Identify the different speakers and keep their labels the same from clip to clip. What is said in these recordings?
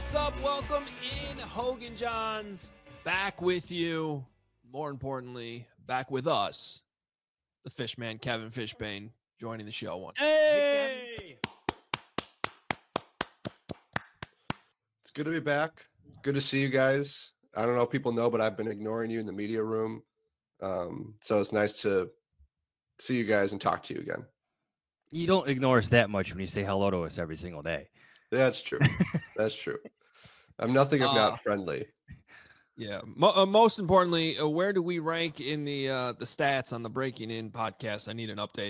Speaker 1: What's up? Welcome in, Hogan Johns. Back with you. More importantly, back with us, the Fishman, Kevin Fishbane, joining the show once.
Speaker 2: Hey!
Speaker 3: It's good to be back. Good to see you guys. I don't know if people know, but I've been ignoring you in the media room. So it's nice to see you guys and talk to you again.
Speaker 2: You don't ignore us that much when you say hello to us every single day.
Speaker 3: That's true. That's true. I'm nothing if not friendly.
Speaker 1: Yeah. Most importantly, where do we rank in the stats on the Breaking In podcast? I need an update.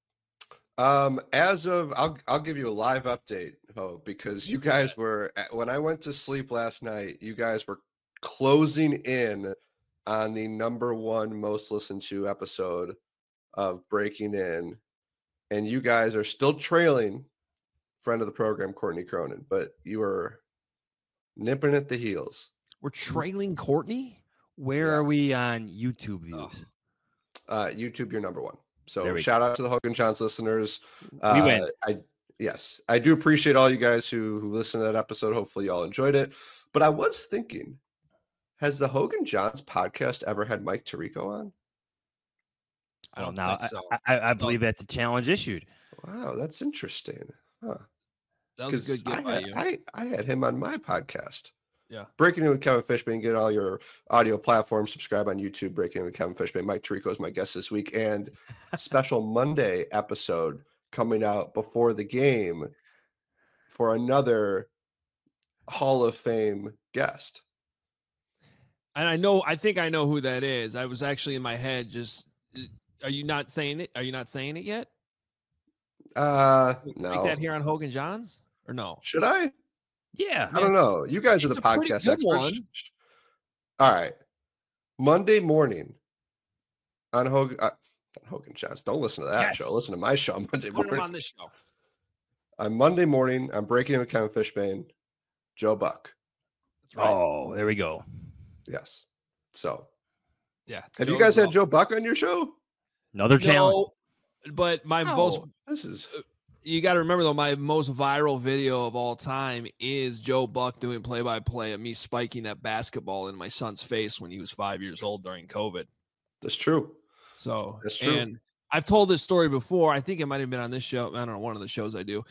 Speaker 3: As of, I'll give you a live update, because you guys were, when I went to sleep last night, you guys were closing in on the #1 most listened to episode of Breaking In, and you guys are still trailing friend of the program, Courtney Cronin, but you are nipping at the heels.
Speaker 1: We're trailing Courtney?
Speaker 2: Where are we on YouTube views?
Speaker 3: YouTube, you're #1. So shout out to the Hogan Johns listeners.
Speaker 2: We win.
Speaker 3: I do appreciate all you guys who listened to that episode. Hopefully y'all enjoyed it. But I was thinking, has the Hogan Johns podcast ever had Mike Tirico on?
Speaker 1: I don't
Speaker 2: know.
Speaker 1: think so.
Speaker 2: I believe that's a challenge issued.
Speaker 3: Wow, that's interesting. Huh.
Speaker 1: That was a good get by you.
Speaker 3: I had him on my podcast.
Speaker 1: Yeah.
Speaker 3: Breaking In with Kevin Fishbane. Get all your audio platforms. Subscribe on YouTube. Breaking In with Kevin Fishbane. Mike Tirico is my guest this week. And special Monday episode coming out before the game for another Hall of Fame guest.
Speaker 1: And I think I know who that is. I was actually in my head are you not saying it? Are you not saying it yet?
Speaker 3: No.
Speaker 1: Make that here on Hogan Johns or no?
Speaker 3: Should I?
Speaker 2: Yeah.
Speaker 3: I don't know. You guys are the podcast experts. All right. Monday morning on Hogan Johns. Don't listen to that show. Listen to my show Monday morning.
Speaker 1: Put him on this show.
Speaker 3: On Monday morning, I'm Breaking In with Kevin Fishbane, Joe Buck.
Speaker 1: That's right.
Speaker 2: Oh, there we go.
Speaker 3: Yes. So,
Speaker 1: yeah.
Speaker 3: Have you guys had Joe Buck on your show?
Speaker 2: Another challenge.
Speaker 1: But my you got to remember though, my most viral video of all time is Joe Buck doing play-by-play of me spiking that basketball in my son's face when he was 5 years old during COVID.
Speaker 3: That's true.
Speaker 1: So,
Speaker 3: that's true.
Speaker 1: And I've told this story before. I think it might have been on this show. I don't know, one of the shows I do.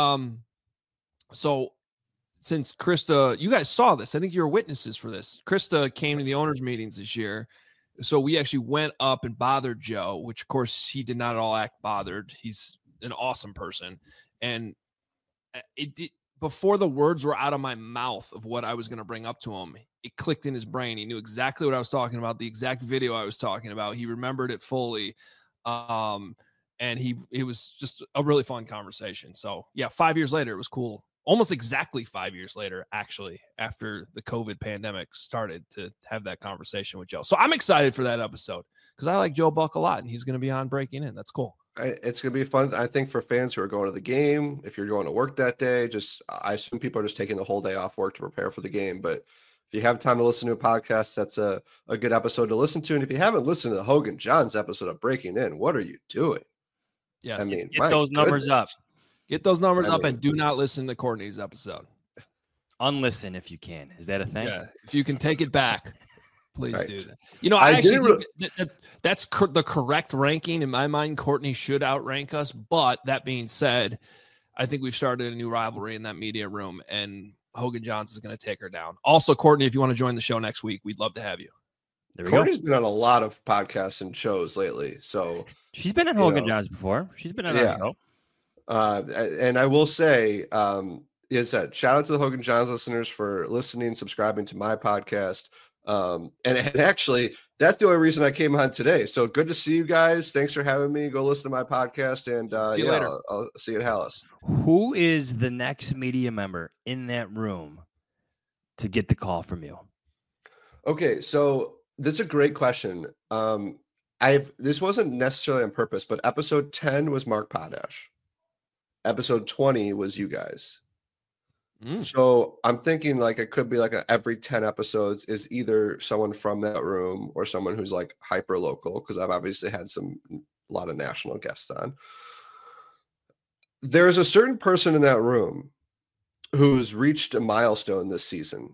Speaker 1: So since Krista, you guys saw this, I think you were witnesses for this. Krista came to the owners meetings this year. So we actually went up and bothered Joe, which of course he did not at all act bothered. He's an awesome person. And before the words were out of my mouth of what I was going to bring up to him, it clicked in his brain. He knew exactly what I was talking about, the exact video I was talking about. He remembered it fully. And it was just a really fun conversation. So yeah, 5 years later, it was cool. Almost exactly 5 years later, actually, after the COVID pandemic started, to have that conversation with Joe. So I'm excited for that episode because I like Joe Buck a lot, and he's going to be on Breaking In. That's cool.
Speaker 3: It's going to be fun, I think, for fans who are going to the game. If you're going to work that day, I assume people are just taking the whole day off work to prepare for the game. But if you have time to listen to a podcast, that's a good episode to listen to. And if you haven't listened to the Hogan Johns episode of Breaking In, what are you doing?
Speaker 1: Yes.
Speaker 3: I mean,
Speaker 2: get those numbers up.
Speaker 1: Get those numbers up and do not listen to Courtney's episode.
Speaker 2: Unlisten if you can. Is that a thing?
Speaker 1: Yeah. If you can take it back, please do that. You know,
Speaker 3: I
Speaker 1: actually think that's the correct ranking. In my mind, Courtney should outrank us. But that being said, I think we've started a new rivalry in that media room, and Hogan Johns is going to take her down. Also, Courtney, if you want to join the show next week, we'd love to have you.
Speaker 3: Courtney's been on a lot of podcasts and shows lately. So
Speaker 2: she's been on Hogan Johns before. She's been on our show.
Speaker 3: And I will say, shout out to the Hogan Johns listeners for listening, subscribing to my podcast. And actually, that's the only reason I came on today. So good to see you guys. Thanks for having me. Go listen to my podcast, and
Speaker 1: see you later.
Speaker 3: I'll see you at Hallis.
Speaker 2: Who is the next media member in that room to get the call from you?
Speaker 3: Okay, so that's a great question. This wasn't necessarily on purpose, but episode 10 was Mark Potash. Episode 20 was you guys. So I'm thinking like it could be like every 10 episodes is either someone from that room or someone who's like hyper local, because I've obviously had a lot of national guests on. There's a certain person in that room who's reached a milestone this season.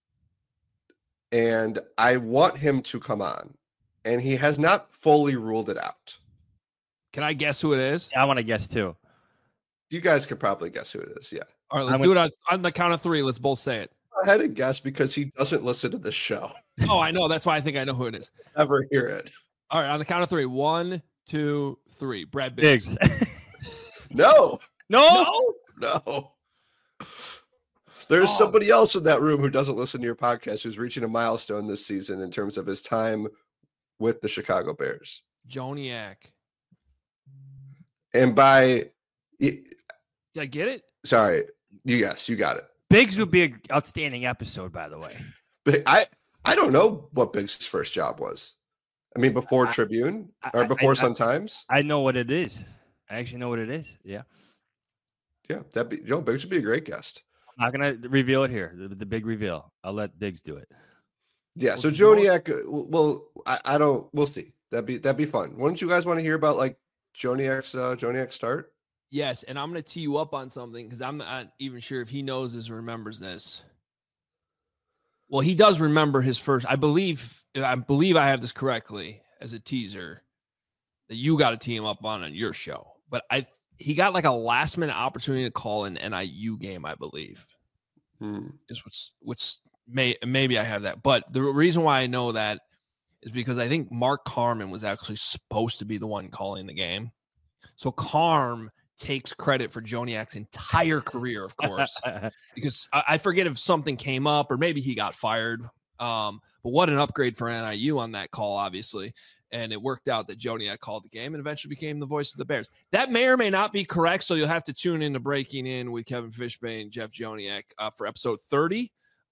Speaker 3: And I want him to come on. And he has not fully ruled it out.
Speaker 1: Can I guess who it is?
Speaker 2: I want to guess too.
Speaker 3: You guys could probably guess who it is. Yeah.
Speaker 1: All right, let's do it on the count of 3. Let's both say it.
Speaker 3: Go ahead and guess because he doesn't listen to the show.
Speaker 1: Oh, I know. That's why I think I know who it is.
Speaker 3: Never hear it.
Speaker 1: All right, on the count of 3. 1, 2, 3. Brad Biggs.
Speaker 3: No.
Speaker 2: No.
Speaker 3: There's somebody else in that room who doesn't listen to your podcast who's reaching a milestone this season in terms of his time with the Chicago Bears.
Speaker 1: Joniak.
Speaker 3: And by...
Speaker 1: Did I get it?
Speaker 3: Sorry. You got it.
Speaker 2: Biggs would be an outstanding episode, by the way.
Speaker 3: But I don't know what Biggs' first job was. I mean, before Tribune or before Sun Times.
Speaker 2: I know what it is. I actually know what it is. Yeah.
Speaker 3: Yeah, Biggs would be a great guest.
Speaker 2: I'm not gonna reveal it here. The big reveal. I'll let Biggs do it.
Speaker 3: Yeah. So Joniak, I don't. We'll see. That'd be fun. Wouldn't you guys want to hear about like Joniak's start?
Speaker 1: Yes, and I'm going to tee you up on something because I'm not even sure if he knows this or remembers this. Well, he does remember his first. I believe I have this correctly as a teaser that you got to tee him up on your show. But he got like a last minute opportunity to call an NIU game, I believe. Which maybe I have that. But the reason why I know that is because I think Mark Carman was actually supposed to be the one calling the game. So Carm takes credit for Joniak's entire career, of course, because I forget if something came up or maybe he got fired. But what an upgrade for NIU on that call, obviously. And it worked out that Joniak called the game and eventually became the voice of the Bears. That may or may not be correct, so you'll have to tune in to Breaking In with Kevin Fishbane and Jeff Joniak for episode 30.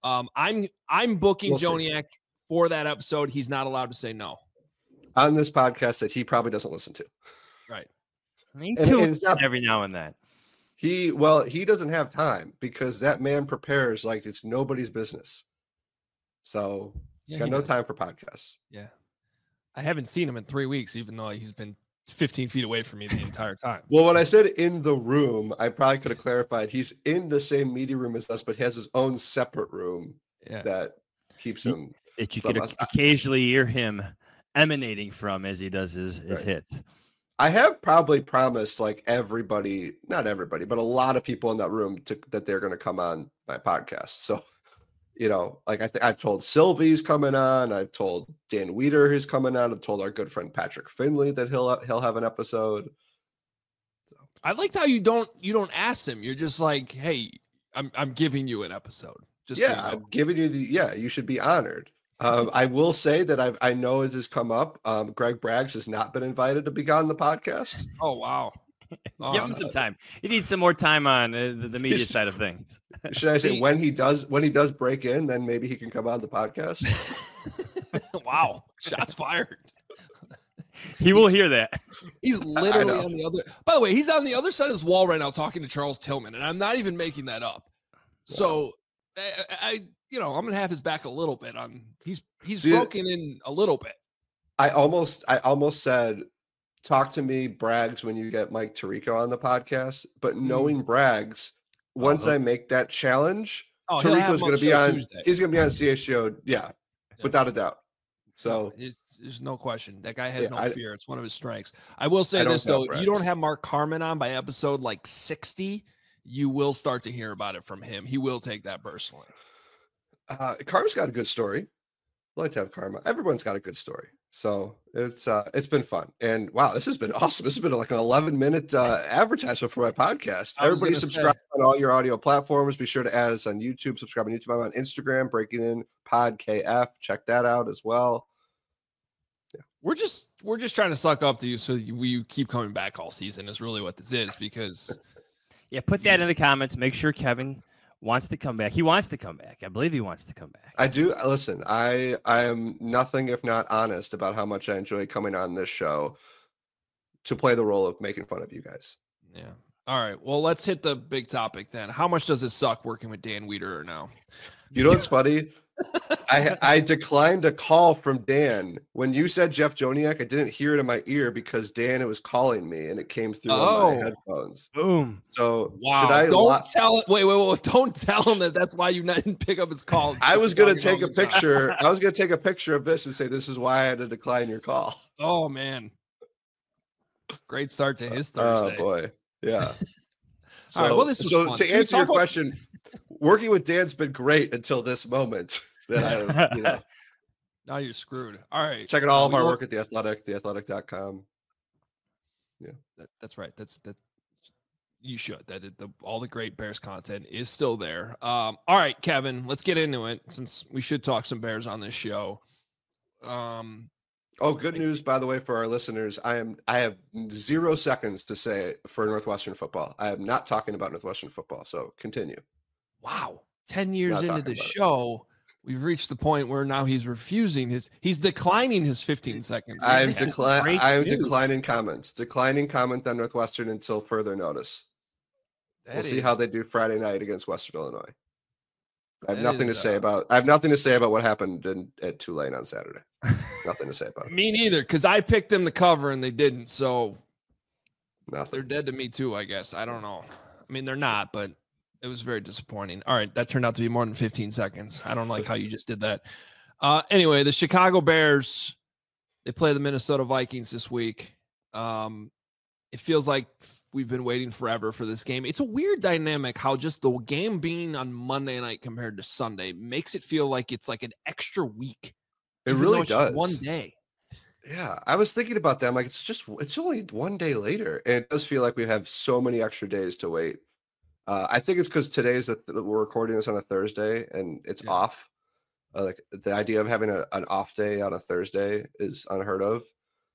Speaker 1: I'm booking Joniak for that episode. He's not allowed to say no.
Speaker 3: On this podcast that he probably doesn't listen to.
Speaker 2: Right. Me too. It's not every now and then.
Speaker 3: He doesn't have time because that man prepares like it's nobody's business. So he's got no time for podcasts.
Speaker 1: Yeah. I haven't seen him in 3 weeks, even though he's been 15 feet away from me the entire time.
Speaker 3: Well, when I said in the room, I probably could have clarified he's in the same media room as us, but he has his own separate room that keeps him.
Speaker 2: That you could occasionally hear him emanating from as he does his hits.
Speaker 3: I have probably promised like everybody, not everybody, but a lot of people in that room that they're going to come on my podcast. So, like I've told Sylvie's coming on. I've told Dan Weeder who's coming on. I've told our good friend Patrick Finley that he'll have an episode. So.
Speaker 1: I liked how you don't ask him. You're just like, hey, I'm giving you an episode. Just
Speaker 3: I'm giving you you should be honored. I will say that I know it has come up. Greg Braggs has not been invited to be on the podcast.
Speaker 1: Oh, wow.
Speaker 2: Give him some time. He needs some more time on the media side of things.
Speaker 3: Should I say when he does break in, then maybe he can come on the podcast?
Speaker 1: Wow. Shots fired.
Speaker 2: He will hear that.
Speaker 1: He's literally on the other. By the way, he's on the other side of this wall right now talking to Charles Tillman, and I'm not even making that up. Wow. So I'm gonna have his back a little bit on. He's broken in a little bit.
Speaker 3: I almost said, talk to me, Braggs, when you get Mike Tirico on the podcast. But knowing Braggs, once I make that challenge, Tirico's going to be on. Tuesday. He's going to be on CHGO, without a doubt. So
Speaker 1: there's no question that guy has no fear. It's one of his strengths. I will say this though: if you don't have Mark Carman on by episode like 60, you will start to hear about it from him. He will take that personally.
Speaker 3: Karma's got a good story. I like to have Karma. Everyone's got a good story. So it's been fun. And wow, this has been awesome. This has been like an 11-minute advertisement for my podcast. Everybody subscribe on all your audio platforms. Be sure to add us on YouTube. Subscribe on YouTube. I'm on Instagram, Breaking In Pod KF. Check that out as well. Yeah.
Speaker 1: We're just trying to suck up to you so you keep coming back all season is really what this is, because
Speaker 2: put that in the comments. Make sure Kevin wants to come back. He wants to come back. I believe he wants to come back.
Speaker 3: I do. Listen, I am nothing if not honest about how much I enjoy coming on this show to play the role of making fun of you guys.
Speaker 1: Yeah. All right. Well, let's hit the big topic then. How much does it suck working with Dan Weeder now?
Speaker 3: You know what's funny? I declined a call from Dan. When you said Jeff Joniak, I didn't hear it in my ear because Dan was calling me and it came through on my headphones.
Speaker 2: Boom.
Speaker 3: So
Speaker 1: Wow.
Speaker 3: should I
Speaker 1: don't tell it. Wait. Don't tell him that's why you didn't pick up his call.
Speaker 3: I was going to take a picture. I was going to take a picture of this and say, this is why I had to decline your call.
Speaker 1: Oh, man. Great start to his Thursday.
Speaker 3: Oh, boy. Yeah.
Speaker 1: All right. Well, this was fun.
Speaker 3: To answer your question, working with Dan's been great until this moment. That
Speaker 1: now you're screwed. All right.
Speaker 3: Checking all of our work at The Athletic, theathletic.com. Yeah.
Speaker 1: That's right. That you should. All the great Bears content is still there. All right, Kevin, let's get into it since we should talk some Bears on this show.
Speaker 3: Good news, by the way, for our listeners. I have 0 seconds to say for Northwestern football. I am not talking about Northwestern football, so continue.
Speaker 1: Wow. 10 years into the show, we've reached the point where now he's declining his 15 seconds.
Speaker 3: I'm declining comments. Declining comment on Northwestern until further notice. We'll see how they do Friday night against Western Illinois. I have nothing to say about what happened at Tulane on Saturday. Nothing to say about it.
Speaker 1: Me neither, because I picked them to cover and they didn't. So
Speaker 3: nothing.
Speaker 1: They're dead to me too, I guess. I don't know. I mean, they're not, but it was very disappointing. All right, that turned out to be more than 15 seconds. I don't like how you just did that. Anyway, the Chicago Bears, they play the Minnesota Vikings this week. It feels like we've been waiting forever for this game. It's a weird dynamic how just the game being on Monday night compared to Sunday makes it feel like it's like an extra week.
Speaker 3: It really does.
Speaker 1: One day.
Speaker 3: Yeah, I was thinking about that. I'm like, it's only one day later. And it does feel like we have so many extra days to wait. I think it's because we're recording this on a Thursday and it's off. Like the idea of having an off day on a Thursday is unheard of.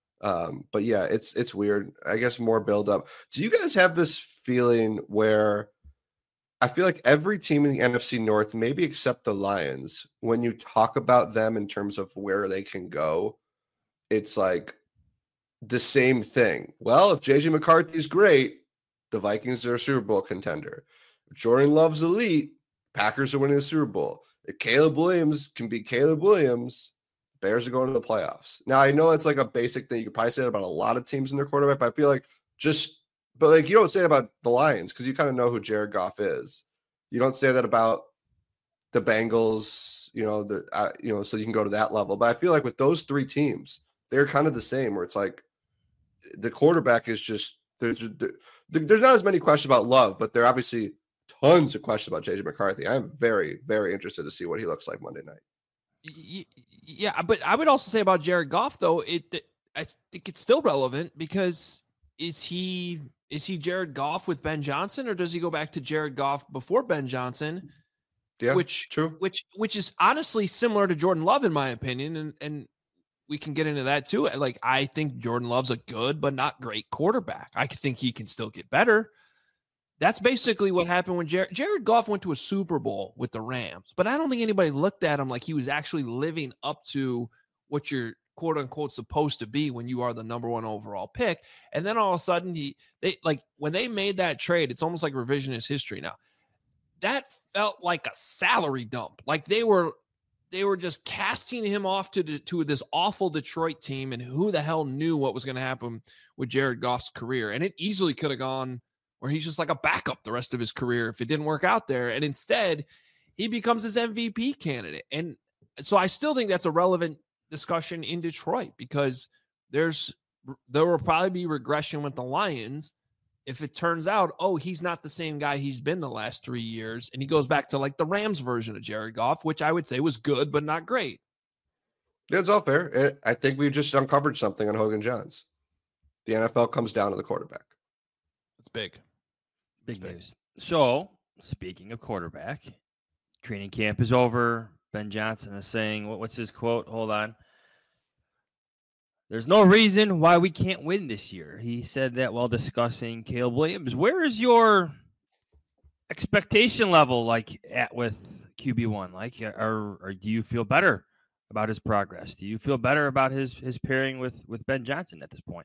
Speaker 3: But yeah, it's weird. I guess more build up. Do you guys have this feeling where I feel like every team in the NFC North, maybe except the Lions, when you talk about them in terms of where they can go, it's like the same thing. Well, if JJ McCarthy's great, the Vikings are a Super Bowl contender. If Jordan Love's elite, Packers are winning the Super Bowl. If Caleb Williams can be Caleb Williams, Bears are going to the playoffs. Now, I know it's like a basic thing. You could probably say that about a lot of teams in their quarterback, but I feel like but you don't say it about the Lions because you kind of know who Jared Goff is. You don't say that about the Bengals, so you can go to that level. But I feel like with those three teams, they're kind of the same where it's like the quarterback is just there's not as many questions about Love, but there are obviously tons of questions about JJ McCarthy. I'm very, very interested to see what he looks like Monday night.
Speaker 1: Yeah, but I would also say about Jared Goff, though, I think it's still relevant because is he Jared Goff with Ben Johnson, or does he go back to Jared Goff before Ben Johnson?
Speaker 3: Yeah,
Speaker 1: true. Which is honestly similar to Jordan Love, in my opinion, and we can get into that too. Like, I think Jordan Love's a good but not great quarterback. I think he can still get better. That's basically what happened when Jared Goff went to a Super Bowl with the Rams. But I don't think anybody looked at him like he was actually living up to what you're quote unquote supposed to be when you are the number one overall pick. And then all of a sudden when they made that trade, it's almost like revisionist history now. That felt like a salary dump. Like they were just casting him off to this awful Detroit team, and who the hell knew what was going to happen with Jared Goff's career. And it easily could have gone where he's just like a backup the rest of his career if it didn't work out there. And instead, he becomes his MVP candidate. And so I still think that's a relevant discussion in Detroit because there will probably be regression with the Lions if it turns out, he's not the same guy he's been the last 3 years. And he goes back to like the Rams version of Jared Goff, which I would say was good, but not great.
Speaker 3: That's all fair. I think we just uncovered something on Hogan Johns. The NFL comes down to the quarterback.
Speaker 1: It's big.
Speaker 2: Big news. So, speaking of quarterback, training camp is over. Ben Johnson is saying, what's his quote? Hold on. There's no reason why we can't win this year. He said that while discussing Caleb Williams. Where is your expectation level with QB1? Or do you feel better about his progress? Do you feel better about his pairing with Ben Johnson at this point?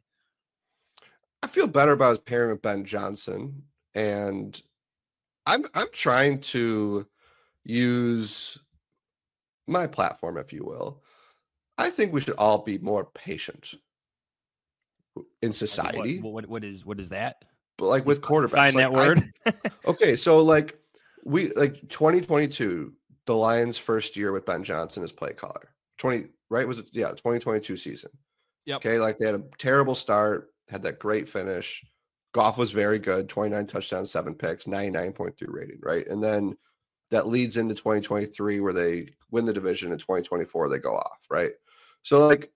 Speaker 3: I feel better about his pairing with Ben Johnson. And I'm trying to use my platform, if you will, I think we should all be more patient in society.
Speaker 2: What is that?
Speaker 3: But like with quarterbacks,
Speaker 2: Find that word.
Speaker 3: Okay, so like 2022, the Lions' first year with Ben Johnson as play caller. 2022 season.
Speaker 1: Yep.
Speaker 3: Okay, like they had a terrible start, had that great finish. Goff was very good, 29 touchdowns, 7 picks, 99.3 rating, right? And then that leads into 2023 where they win the division. In 2024 they go off, right? So like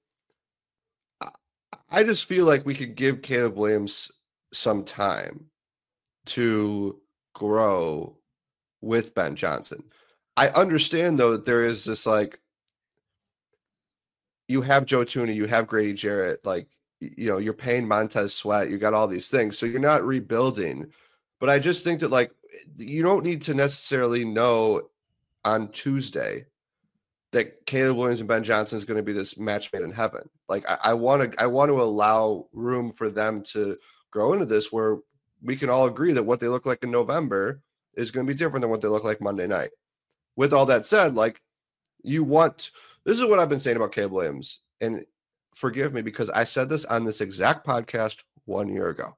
Speaker 3: I just feel like we could give Caleb Williams some time to grow with Ben Johnson. I understand though that there is this like, you have Joe Thuney, you have Grady Jarrett, like, you know, you're paying Montez Sweat, you got all these things, so you're not rebuilding. But I just think that like you don't need to necessarily know on Tuesday that Caleb Williams and Ben Johnson is going to be this match made in heaven. Like I want to allow room for them to grow into this, where we can all agree that what they look like in November is going to be different than what they look like Monday night. With all that said, like this is what I've been saying about Caleb Williams, and forgive me because I said this on this exact podcast 1 year ago.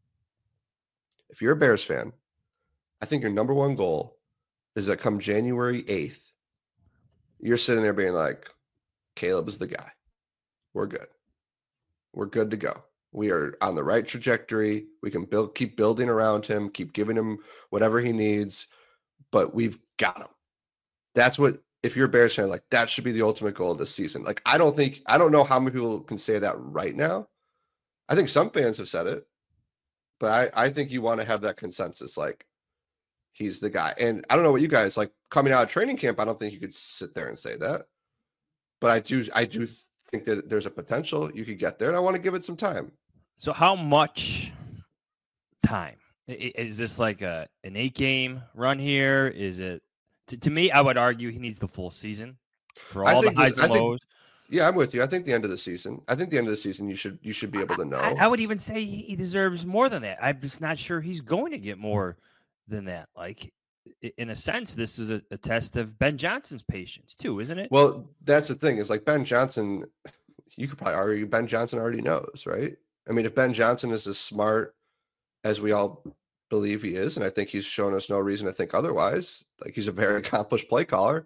Speaker 3: If you're a Bears fan, I think your number one goal is that come January 8th, you're sitting there being like, Caleb is the guy. We're good. We're good to go. We are on the right trajectory. We can keep building around him, keep giving him whatever he needs, but we've got him. That's what, if you're a Bears fan, like that should be the ultimate goal of this season. Like, I don't know how many people can say that right now. I think some fans have said it, but I think you want to have that consensus. Like, he's the guy. And I don't know what you guys like coming out of training camp. I don't think you could sit there and say that, but I do think that there's a potential you could get there, and I want to give it some time.
Speaker 2: So how much time? Is this like an 8-game run here? Is it, to me, I would argue he needs the full season for all the highs and lows.
Speaker 3: Yeah, I'm with you. I think the end of the season. You should be able to know.
Speaker 2: I would even say he deserves more than that. I'm just not sure he's going to get more than that. Like, in a sense, this is a test of Ben Johnson's patience too, isn't it?
Speaker 3: Well, that's the thing, is like Ben Johnson, you could probably argue Ben Johnson already knows, right? I mean, if Ben Johnson is as smart as we all believe he is, and I think he's shown us no reason to think otherwise, like he's a very accomplished play caller,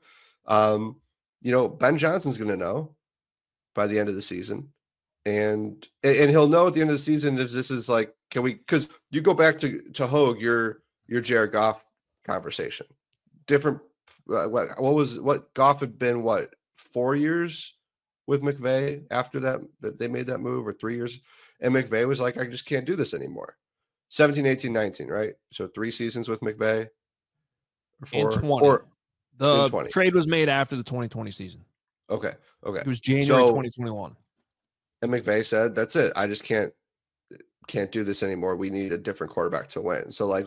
Speaker 3: Ben Johnson's going to know by the end of the season. And he'll know at the end of the season if this is like, because you go back to Hogue, your Jared Goff conversation, different. What Goff had been 4 years with McVay after that they made that move, or 3 years, and McVay was like, I just can't do this anymore. 17, 18, 19, right? So 3 seasons with McVay.
Speaker 1: In 20. The trade was made after the 2020 season.
Speaker 3: Okay.
Speaker 1: It was January 2021.
Speaker 3: And McVay said, that's it. I just can't do this anymore. We need a different quarterback to win. So like,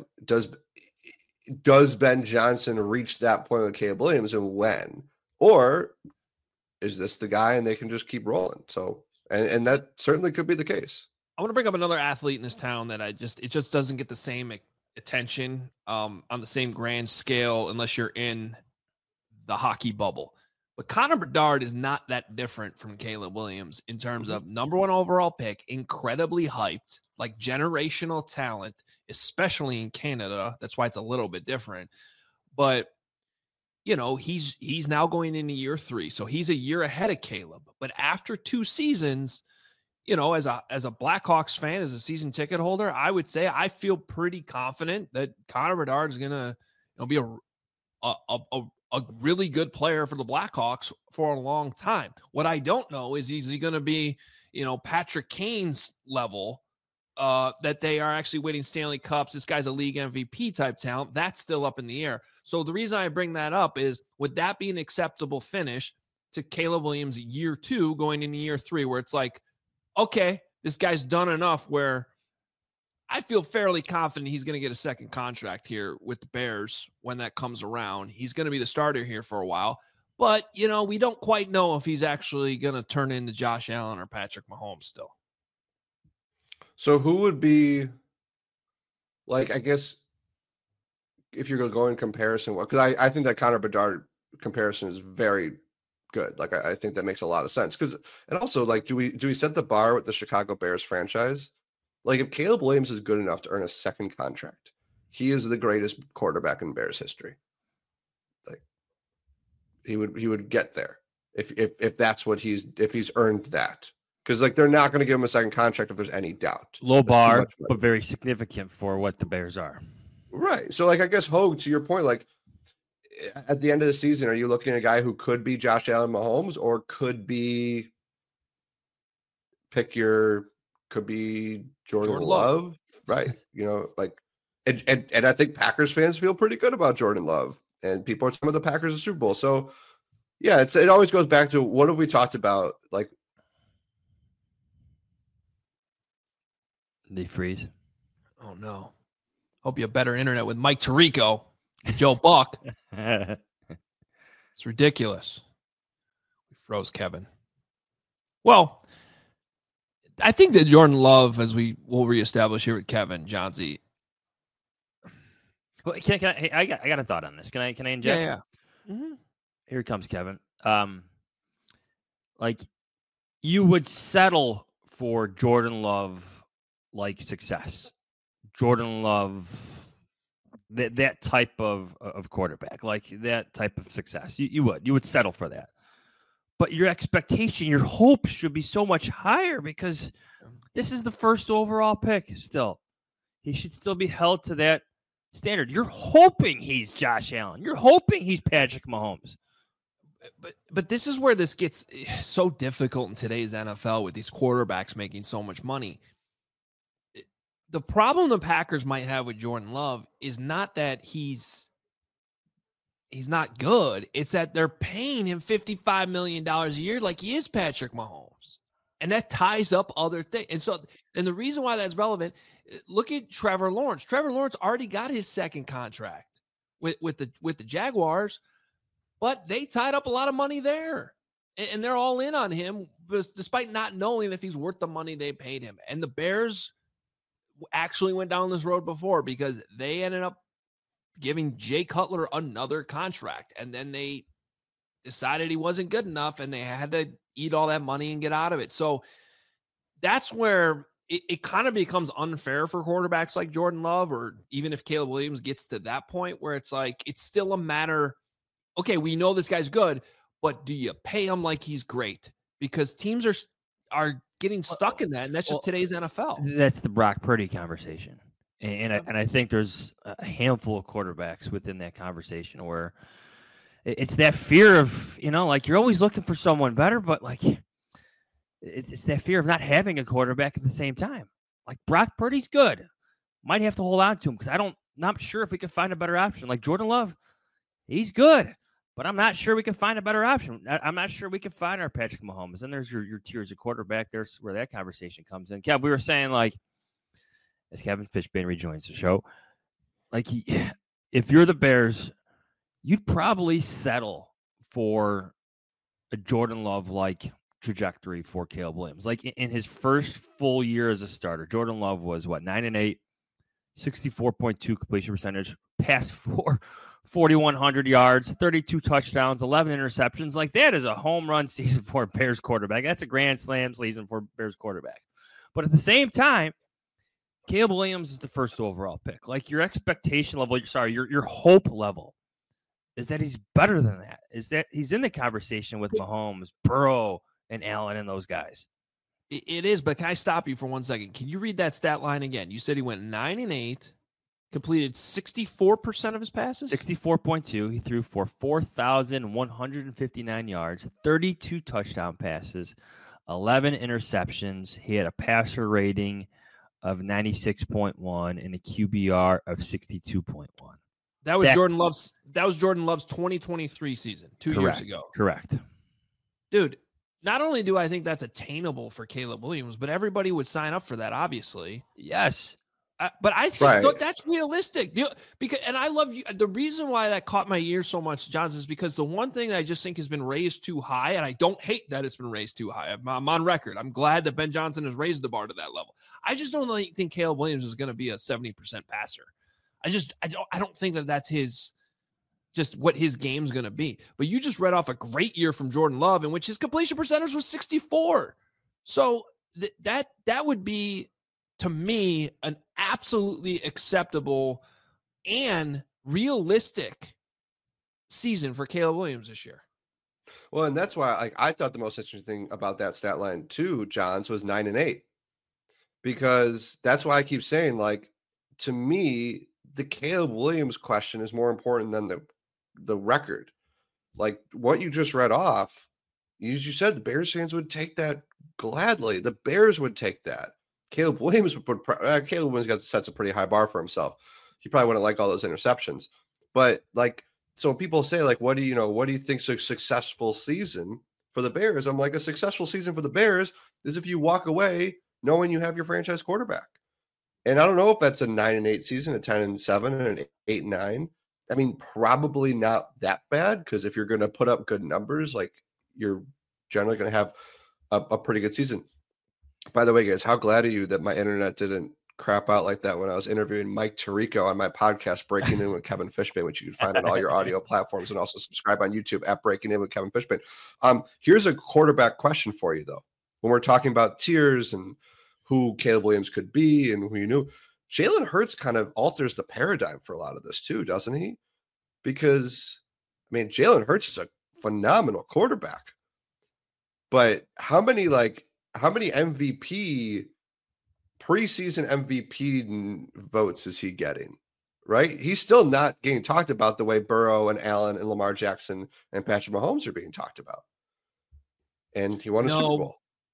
Speaker 3: does Ben Johnson reach that point with Caleb Williams, and when? Or is this the guy and they can just keep rolling? So, and that certainly could be the case.
Speaker 1: I want to bring up another athlete in this town that it just doesn't get the same attention on the same grand scale unless you're in the hockey bubble. But Connor Bedard is not that different from Caleb Williams in terms of number 1 overall pick, incredibly hyped, like generational talent, especially in Canada. That's why it's a little bit different. But, he's now going into year 3. So he's a year ahead of Caleb. But after 2 seasons, as a Blackhawks fan, as a season ticket holder, I would say I feel pretty confident that Connor Bedard is going to be a really good player for the Blackhawks for a long time. What I don't know is he going to be, Patrick Kane's level, that they are actually winning Stanley Cups. This guy's a league MVP type talent. That's still up in the air. So the reason I bring that up is, would that be an acceptable finish to Caleb Williams year 2 going into year 3, where it's like, okay, this guy's done enough where I feel fairly confident he's going to get a second contract here with the Bears when that comes around. He's going to be the starter here for a while. But, we don't quite know if he's actually going to turn into Josh Allen or Patrick Mahomes still.
Speaker 3: So who would be, like, I guess, if you're going to go in comparison, because I think that Connor Bedard comparison is very good. Like I think that makes a lot of sense. And also, like, do we set the bar with the Chicago Bears franchise? Like, if Caleb Williams is good enough to earn a second contract, he is the greatest quarterback in Bears history. Like, he would get there if that's what if he's earned that. Because like they're not going to give him a second contract if there's any doubt.
Speaker 2: Low bar, but very significant for what the Bears are.
Speaker 3: Right. So like I guess Hogue, to your point, like at the end of the season, are you looking at a guy who could be Josh Allen Mahomes or could be Jordan Love? Right. You know, like and I think Packers fans feel pretty good about Jordan Love, and people are talking about the Packers in Super Bowl. So yeah, it always goes back to what have we talked about? Like,
Speaker 2: they freeze.
Speaker 1: Oh no! Hope you have better internet with Mike Tirico, Joe Buck. It's ridiculous. We froze Kevin. Well, I think that Jordan Love, as we will reestablish here with Kevin Johnsy.
Speaker 2: Well, can I? Hey, I got a thought on this. Can I inject?
Speaker 1: Yeah. Mm-hmm.
Speaker 2: Here comes Kevin. Like you would settle for Jordan Love like success. Jordan Love, that type of quarterback, like that type of success. You would settle for that. But your expectation, your hope should be so much higher because this is the first overall pick still. He should still be held to that standard. You're hoping he's Josh Allen. You're hoping he's Patrick Mahomes.
Speaker 1: But this is where this gets so difficult in today's NFL with these quarterbacks making so much money. The problem the Packers might have with Jordan Love is not that he's not good. It's that they're paying him $55 million a year like he is Patrick Mahomes. And that ties up other things. And the reason why that's relevant, look at Trevor Lawrence. Trevor Lawrence already got his second contract with the Jaguars, but they tied up a lot of money there. And they're all in on him, despite not knowing if he's worth the money they paid him. And the Bears actually went down this road before because they ended up giving Jay Cutler another contract. And then they decided he wasn't good enough and they had to eat all that money and get out of it. So that's where it kind of becomes unfair for quarterbacks like Jordan Love, or even if Caleb Williams gets to that point where it's like, it's still a matter. Okay, we know this guy's good, but do you pay him like he's great? Because teams are getting stuck in that, and that's just today's NFL.
Speaker 2: That's the Brock Purdy conversation. And I think there's a handful of quarterbacks within that conversation where it's that fear of, like you're always looking for someone better, but like it's that fear of not having a quarterback at the same time. Like Brock Purdy's good. Might have to hold on to him because not sure if we can find a better option. Like Jordan Love, he's good, but I'm not sure we can find a better option. I'm not sure we can find our Patrick Mahomes. And there's your tiers of quarterback. There's where that conversation comes in. Kev, we were saying, like, as Kevin Fishbane rejoins the show, like, if you're the Bears, you'd probably settle for a Jordan Love-like trajectory for Caleb Williams. Like, in his first full year as a starter, Jordan Love was, 9-8, 64.2 completion percentage, passed for 4,100 yards, 32 touchdowns, 11 interceptions. Like, that is a home run season for a Bears quarterback. That's a grand slam season for a Bears quarterback. But at the same time, Caleb Williams is the first overall pick. Like, your expectation level, your hope level is that he's better than that. Is that he's in the conversation with Mahomes, Burrow, and Allen and those guys.
Speaker 1: It is, but can I stop you for 1 second? Can you read that stat line again? You said he went 9-8. Completed 64% of his passes?
Speaker 2: 64.2. He threw for 4,159 yards, 32 touchdown passes, 11 interceptions. He had a passer rating of 96.1 and a QBR of 62.1.
Speaker 1: That was Jordan Love's 2023 season, 2 years ago.
Speaker 2: Correct.
Speaker 1: Dude, not only do I think that's attainable for Caleb Williams, but everybody would sign up for that, obviously.
Speaker 2: Yes.
Speaker 1: But I think that's realistic. And I love you. The reason why that caught my ear so much, Johns, is because the one thing that I just think has been raised too high, and I don't hate that it's been raised too high. I'm on record. I'm glad that Ben Johnson has raised the bar to that level. I just don't think Caleb Williams is going to be a 70% passer. I don't think that that's his just what his game's going to be. But you just read off a great year from Jordan Love in which his completion percentage was 64. So that would be, to me, an absolutely acceptable and realistic season for Caleb Williams this year.
Speaker 3: Well, and that's why I thought the most interesting thing about that stat line too, Johns, was 9-8. Because that's why I keep saying, like, to me, the Caleb Williams question is more important than the record. Like what you just read off, you said the Bears fans would take that gladly. The Bears would take that. Caleb Williams sets a pretty high bar for himself. He probably wouldn't like all those interceptions. But like, so when people say, like, what do you think's a successful season for the Bears? I'm like, a successful season for the Bears is if you walk away knowing you have your franchise quarterback. And I don't know if that's a 9-8 season, a 10-7, and an 8-9. I mean, probably not that bad, because if you're going to put up good numbers, like, you're generally going to have a pretty good season. By the way, guys, how glad are you that my internet didn't crap out like that when I was interviewing Mike Tirico on my podcast, Breaking In with Kevin Fishbane, which you can find on all your audio platforms, and also subscribe on YouTube at Breaking In with Kevin Fishbane. Here's a quarterback question for you, though. When we're talking about tiers and who Caleb Williams could be and who you knew, Jalen Hurts kind of alters the paradigm for a lot of this too, doesn't he? Because, I mean, Jalen Hurts is a phenomenal quarterback, but how many MVP, preseason MVP votes is he getting? Right? He's still not getting talked about the way Burrow and Allen and Lamar Jackson and Patrick Mahomes are being talked about. And he won a Super Bowl.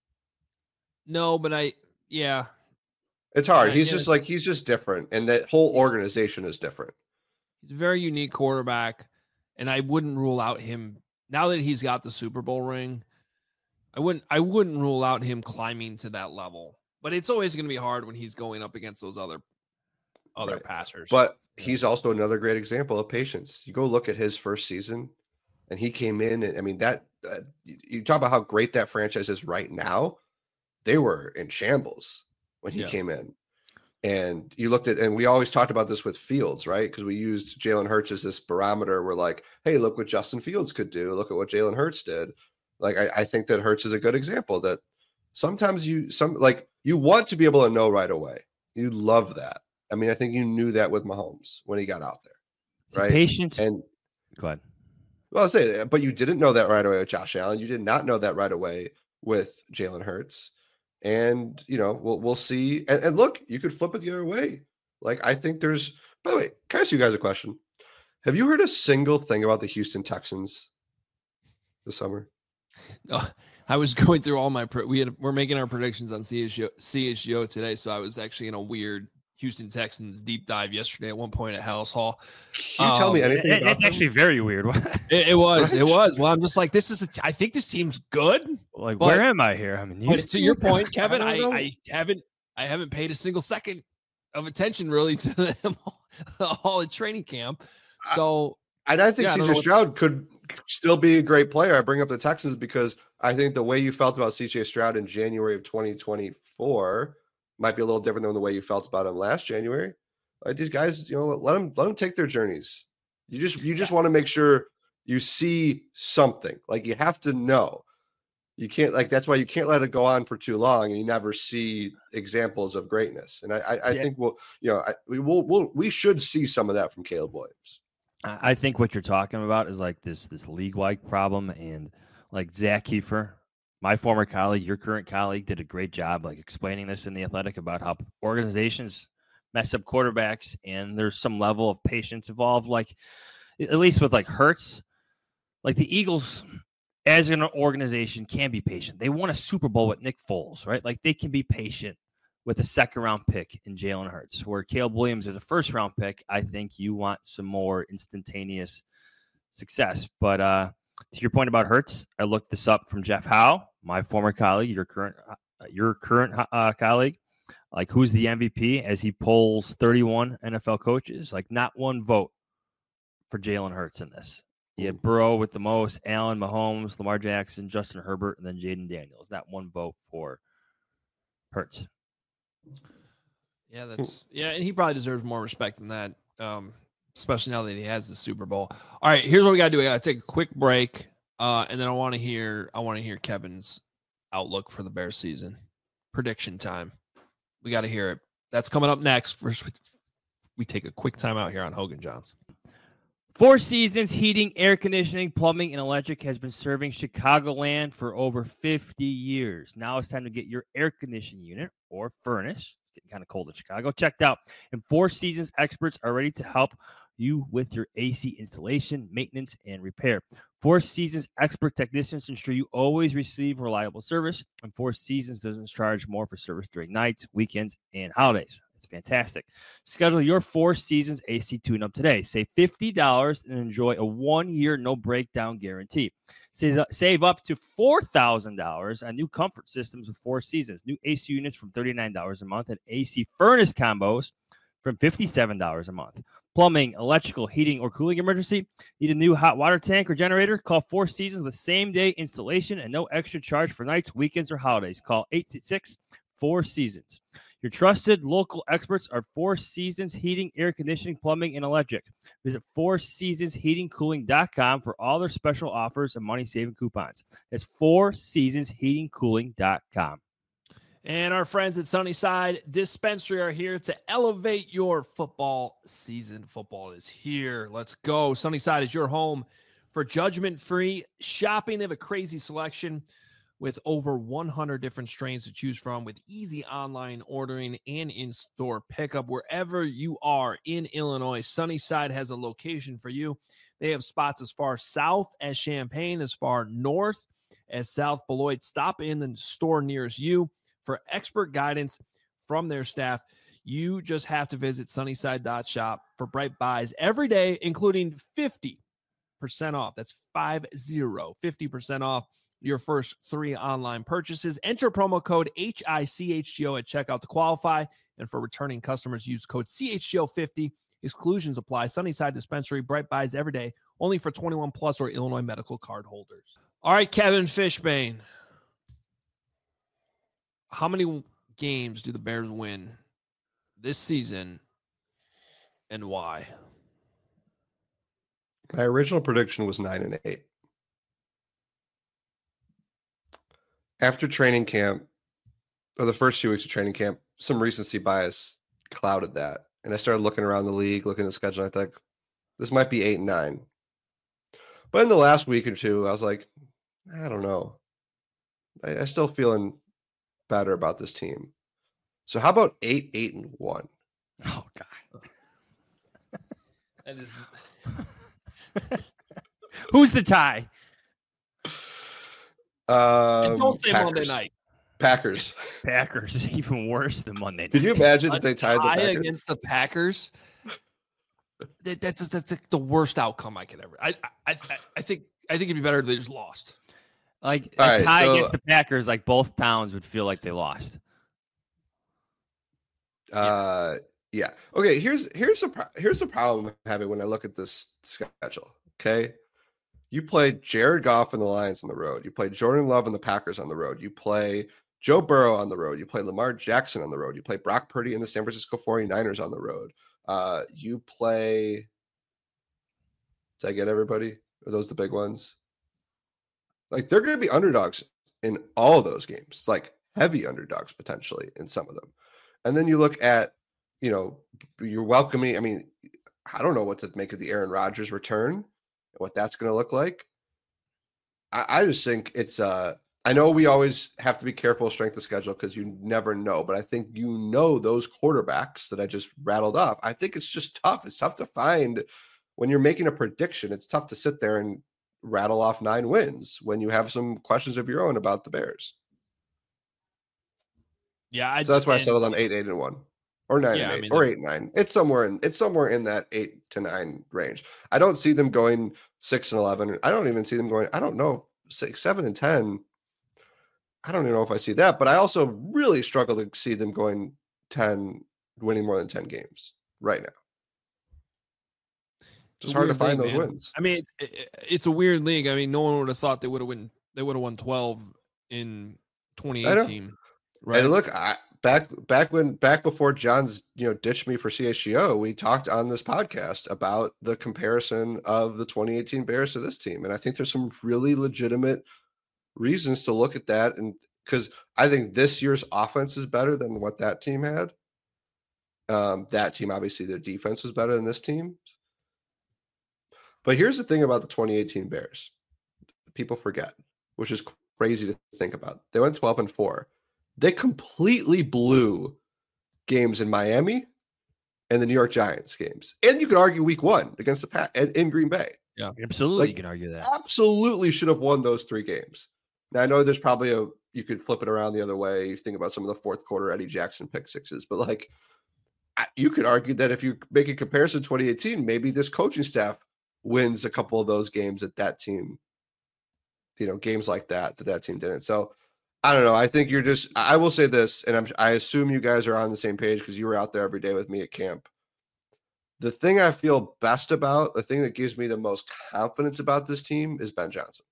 Speaker 1: No, but yeah.
Speaker 3: It's hard. He's just different. And that whole organization is different.
Speaker 1: He's a very unique quarterback. And I wouldn't rule out him, now that he's got the Super Bowl ring, I wouldn't rule out him climbing to that level. But it's always going to be hard when he's going up against those other right. passers.
Speaker 3: But he's also another great example of patience. You go look at his first season, and he came in, and I mean, that you talk about how great that franchise is right now. They were in shambles when he came in. And you looked at, and we always talked about this with Fields, right? Because we used Jalen Hurts as this barometer. We're like, hey, look what Justin Fields could do. Look at what Jalen Hurts did. Like, I think that Hurts is a good example that sometimes you want to be able to know right away. You love that. I mean, I think you knew that with Mahomes when he got out there, right?
Speaker 2: Patience.
Speaker 3: And
Speaker 2: go ahead.
Speaker 3: Well, I'll say it, but you didn't know that right away with Josh Allen. You did not know that right away with Jalen Hurts. And, we'll see. And look, you could flip it the other way. Like, I think there's, by the way, can I ask you guys a question? Have you heard a single thing about the Houston Texans this summer?
Speaker 1: No, I was going through all my, we're making our predictions on CHGO today. So I was actually in a weird Houston Texans deep dive yesterday at one point at Hallis Hall.
Speaker 3: Can you tell me anything about
Speaker 2: It's actually very weird.
Speaker 1: It was. Well, I'm just like, I think this team's good.
Speaker 2: Like, where am I here? I mean,
Speaker 1: to your point, Kevin, I haven't paid a single second of attention really to them all at training camp. So,
Speaker 3: and I think CJ Stroud could still be a great player. I bring up the Texans because I think the way you felt about CJ Stroud in January of 2024 might be a little different than the way you felt about him last January. Like, these guys, let them take their journeys. You just want to make sure you see something. Like, you have to know. You can't, like, that's why you can't let it go on for too long and you never see examples of greatness. And I think we should see some of that from Caleb Williams.
Speaker 2: I think what you're talking about is like this league-wide problem, and like Zach Kiefer, my former colleague, your current colleague, did a great job like explaining this in The Athletic about how organizations mess up quarterbacks and there's some level of patience involved. Like, at least with like Hurts, like the Eagles as an organization can be patient. They won a Super Bowl with Nick Foles, right? Like, they can be patient with a second-round pick in Jalen Hurts, where Caleb Williams is a first-round pick. I think you want some more instantaneous success. But to your point about Hurts, I looked this up from Jeff Howe, my former colleague, your current colleague. Like, who's the MVP as he polls 31 NFL coaches? Like, not one vote for Jalen Hurts in this. You had Burrow with the most, Allen, Mahomes, Lamar Jackson, Justin Herbert, and then Jaden Daniels. Not one vote for Hurts.
Speaker 1: Yeah, and he probably deserves more respect than that. especially now that he has the Super Bowl. All right, here's what we got to do. We got to take a quick break, and then I want to hear Kevin's outlook for the Bears season. Prediction time. We got to hear it. That's coming up next. First, we take a quick time out here on Hogan Johns.
Speaker 2: Four Seasons Heating, Air Conditioning, Plumbing, and Electric has been serving Chicagoland for over 50 years. Now it's time to get your air conditioning unit or furnace, it's getting kind of cold in Chicago, checked out. And Four Seasons experts are ready to help you with your AC installation, maintenance, and repair. Four Seasons expert technicians ensure you always receive reliable service, and Four Seasons doesn't charge more for service during nights, weekends, and holidays. It's fantastic. Schedule your Four Seasons AC tune-up today. Save $50 and enjoy a 1-year no-breakdown guarantee. Save up to $4,000 on new comfort systems with Four Seasons. New AC units from $39 a month and AC furnace combos from $57 a month. Plumbing, electrical, heating, or cooling emergency? Need a new hot water tank or generator? Call Four Seasons with same-day installation and no extra charge for nights, weekends, or holidays. Call 866-4-SEASONS. Your trusted local experts are Four Seasons Heating, Air Conditioning, Plumbing, and Electric. Visit fourseasonsheatingcooling.com for all their special offers and money-saving coupons. That's fourseasonsheatingcooling.com.
Speaker 1: And our friends at Sunnyside Dispensary are here to elevate your football season. Football is here. Let's go. Sunnyside is your home for judgment-free shopping. They have a crazy selection with over 100 different strains to choose from, with easy online ordering and in-store pickup. Wherever you are in Illinois, Sunnyside has a location for you. They have spots as far south as Champaign, as far north as South Beloit. Stop in the store nearest you for expert guidance from their staff. You just have to visit sunnyside.shop for bright buys every day, including 50% off. That's 50% off your first 3 online purchases. Enter promo code HICHGO at checkout to qualify. And for returning customers, use code CHGO50. Exclusions apply. Sunnyside Dispensary, bright buys every day, only for 21 plus or Illinois medical card holders. All right, Kevin Fishbane. How many games do the Bears win this season and why?
Speaker 3: My original prediction was 9-8. After training camp, or the first few weeks of training camp, some recency bias clouded that. And I started looking around the league, looking at the schedule, and I think this might be 8-9. But in the last week or two, I was like, I don't know. I still feeling better about this team. So how about 8-1?
Speaker 2: Oh, God.
Speaker 1: That is...
Speaker 2: Who's the tie?
Speaker 1: And don't say
Speaker 3: Packers.
Speaker 1: Monday night.
Speaker 3: Packers.
Speaker 2: Packers. Even worse than Monday night.
Speaker 3: Could you imagine if they tied the
Speaker 1: tie
Speaker 3: Packers?
Speaker 1: against the Packers? That's like the worst outcome I could ever. I think it'd be better if they just lost.
Speaker 2: Like
Speaker 3: All
Speaker 2: a
Speaker 3: right,
Speaker 2: tie
Speaker 3: so-
Speaker 2: against the Packers, like both towns would feel like they lost.
Speaker 3: Yeah. Okay, here's the problem I'm having when I look at this schedule. Okay. You play Jared Goff and the Lions on the road. You play Jordan Love and the Packers on the road. You play Joe Burrow on the road. You play Lamar Jackson on the road. You play Brock Purdy and the San Francisco 49ers on the road. You play. Did I get everybody? Are those the big ones? Like, they're going to be underdogs in all of those games, like heavy underdogs potentially in some of them. And then you look at, you're welcoming. I mean, I don't know what to make of the Aaron Rodgers return, what that's going to look like. I just think it's I know we always have to be careful of strength of schedule because you never know, but I think those quarterbacks that I just rattled off, I think it's just tough. It's tough to find when you're making a prediction. It's tough to sit there and rattle off 9 wins when you have some questions of your own about the Bears.
Speaker 1: Yeah,
Speaker 3: So that's why I settled on 8-1. Or 9-8 or 8-9. It's somewhere in that 8-9 range. I don't see them going 6-11. I don't even see them going, 7-10. I don't even know if I see that, but I also really struggle to see them going 10, winning more than 10 games right now. It's hard to find those wins.
Speaker 1: I mean, it's a weird league. I mean, no one would have thought they would have won 12 in 2018. Right.
Speaker 3: And look, back before John's ditched me for CHGO, we talked on this podcast about the comparison of the 2018 Bears to this team, and I think there's some really legitimate reasons to look at that, and because I think this year's offense is better than what that team had. That team, obviously, their defense was better than this team. But here's the thing about the 2018 Bears. People forget, which is crazy to think about. They went 12-4. They completely blew games in Miami and the New York Giants games. And you could argue week 1 against the Pat in Green Bay.
Speaker 2: Yeah, absolutely. You can argue that.
Speaker 3: Absolutely should have won those 3 games. Now, I know there's probably you could flip it around the other way. You think about some of the fourth quarter Eddie Jackson pick sixes, but like you could argue that if you make a comparison to 2018, maybe this coaching staff wins a couple of those games that team, games like that team didn't. So I don't know. I think I will say this, and I assume you guys are on the same page because you were out there every day with me at camp. The thing I feel best about, the thing that gives me the most confidence about this team is Ben Johnson.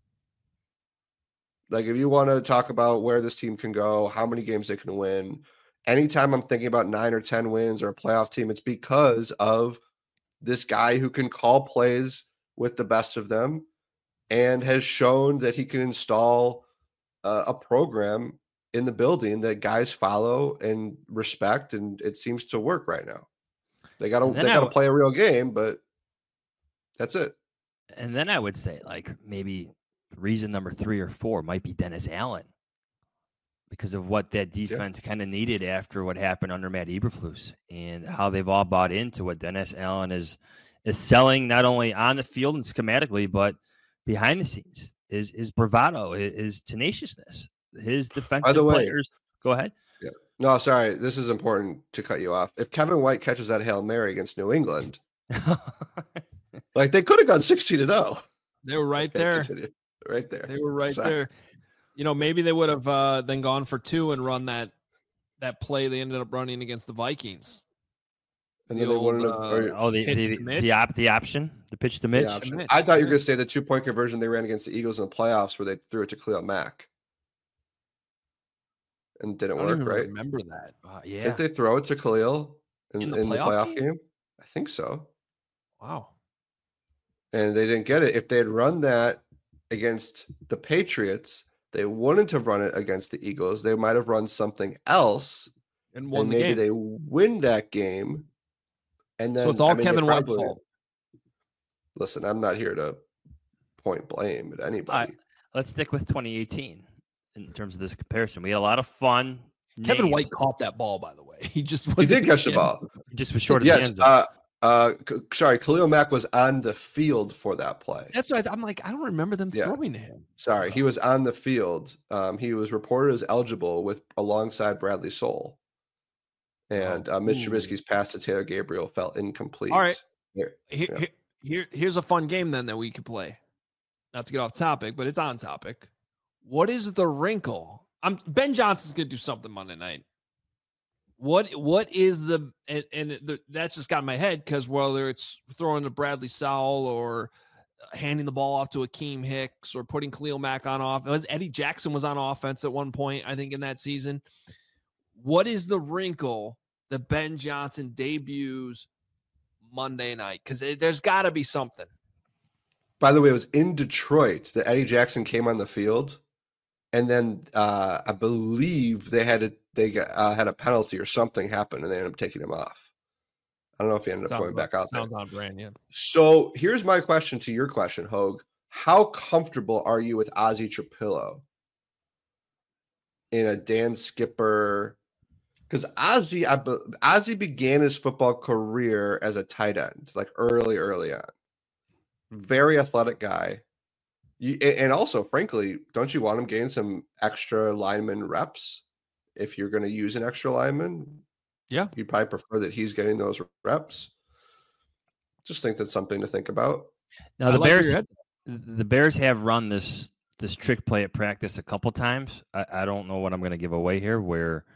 Speaker 3: Like, if you want to talk about where this team can go, how many games they can win, anytime I'm thinking about 9 or 10 wins or a playoff team, it's because of this guy who can call plays with the best of them and has shown that he can install a program in the building that guys follow and respect, and it seems to work right now. They got to play a real game, but that's it.
Speaker 2: And then I would say, like, maybe reason number 3 or 4 might be Dennis Allen, because of what that defense kind of needed after what happened under Matt Eberflus, and how they've all bought into what Dennis Allen is selling, not only on the field and schematically, but behind the scenes. His bravado, his tenaciousness, his defensive players. Go ahead.
Speaker 3: Yeah. No, sorry. This is important to cut you off. If Kevin White catches that Hail Mary against New England, like, they could have gone 16-0.
Speaker 1: They were right there.
Speaker 3: Right there.
Speaker 1: They were right there. Maybe they would have then gone for 2 and run that play they ended up running against the Vikings.
Speaker 3: And then they wouldn't have.
Speaker 2: The option, the pitch to Mitch.
Speaker 3: I thought you were going to say the 2-point conversion they ran against the Eagles in the playoffs, where they threw it to Khalil Mack, and didn't work. Right?
Speaker 1: Remember that?
Speaker 2: Yeah.
Speaker 3: Didn't they throw it to Khalil in the playoff game? I think so.
Speaker 1: Wow.
Speaker 3: And they didn't get it. If they had run that against the Patriots, they wouldn't have run it against the Eagles. They might have run something else,
Speaker 1: and won the
Speaker 3: maybe
Speaker 1: game.
Speaker 3: They win that game. And then,
Speaker 1: so it's all Kevin White's fault.
Speaker 3: Listen, I'm not here to point blame at anybody.
Speaker 2: Let's stick with 2018 in terms of this comparison. We had a lot of fun.
Speaker 1: Kevin White caught that ball, by the way. He
Speaker 3: did catch the ball.
Speaker 2: He just was short of the end zone.
Speaker 3: Sorry, Khalil Mack was on the field for that play.
Speaker 1: That's right. I'm like, I don't remember them throwing to him.
Speaker 3: Sorry, he was on the field. He was reported as eligible alongside Bradley Soul. And Mitch Trubisky's pass to Taylor Gabriel fell incomplete.
Speaker 1: All right. Here's a fun game then that we could play. Not to get off topic, but it's on topic. What is the wrinkle? Ben Johnson's going to do something Monday night. What is that's just got in my head, because whether it's throwing to Bradley Sowell or handing the ball off to Akeem Hicks or putting Khalil Mack on offense. Eddie Jackson was on offense at one point, I think, in that season. What is the wrinkle that Ben Johnson debuts Monday night? Because there's got to be something.
Speaker 3: By the way, it was in Detroit that Eddie Jackson came on the field, and then I believe they had a penalty or something happen, and they ended up taking him off. I don't know if he ended up going back out there.
Speaker 1: Sounds on brand, yeah.
Speaker 3: So here's my question to your question, Hogue. How comfortable are you with Ozzie Trapillo in a Dan Skipper? Because Ozzie began his football career as a tight end, like early on. Very athletic guy. And also, frankly, don't you want him getting some extra lineman reps if you're going to use an extra lineman?
Speaker 1: Yeah.
Speaker 3: You'd probably prefer that he's getting those reps. Just think that's something to think about.
Speaker 2: Now, the Bears have run this trick play at practice a couple times. I don't know what I'm going to give away here, where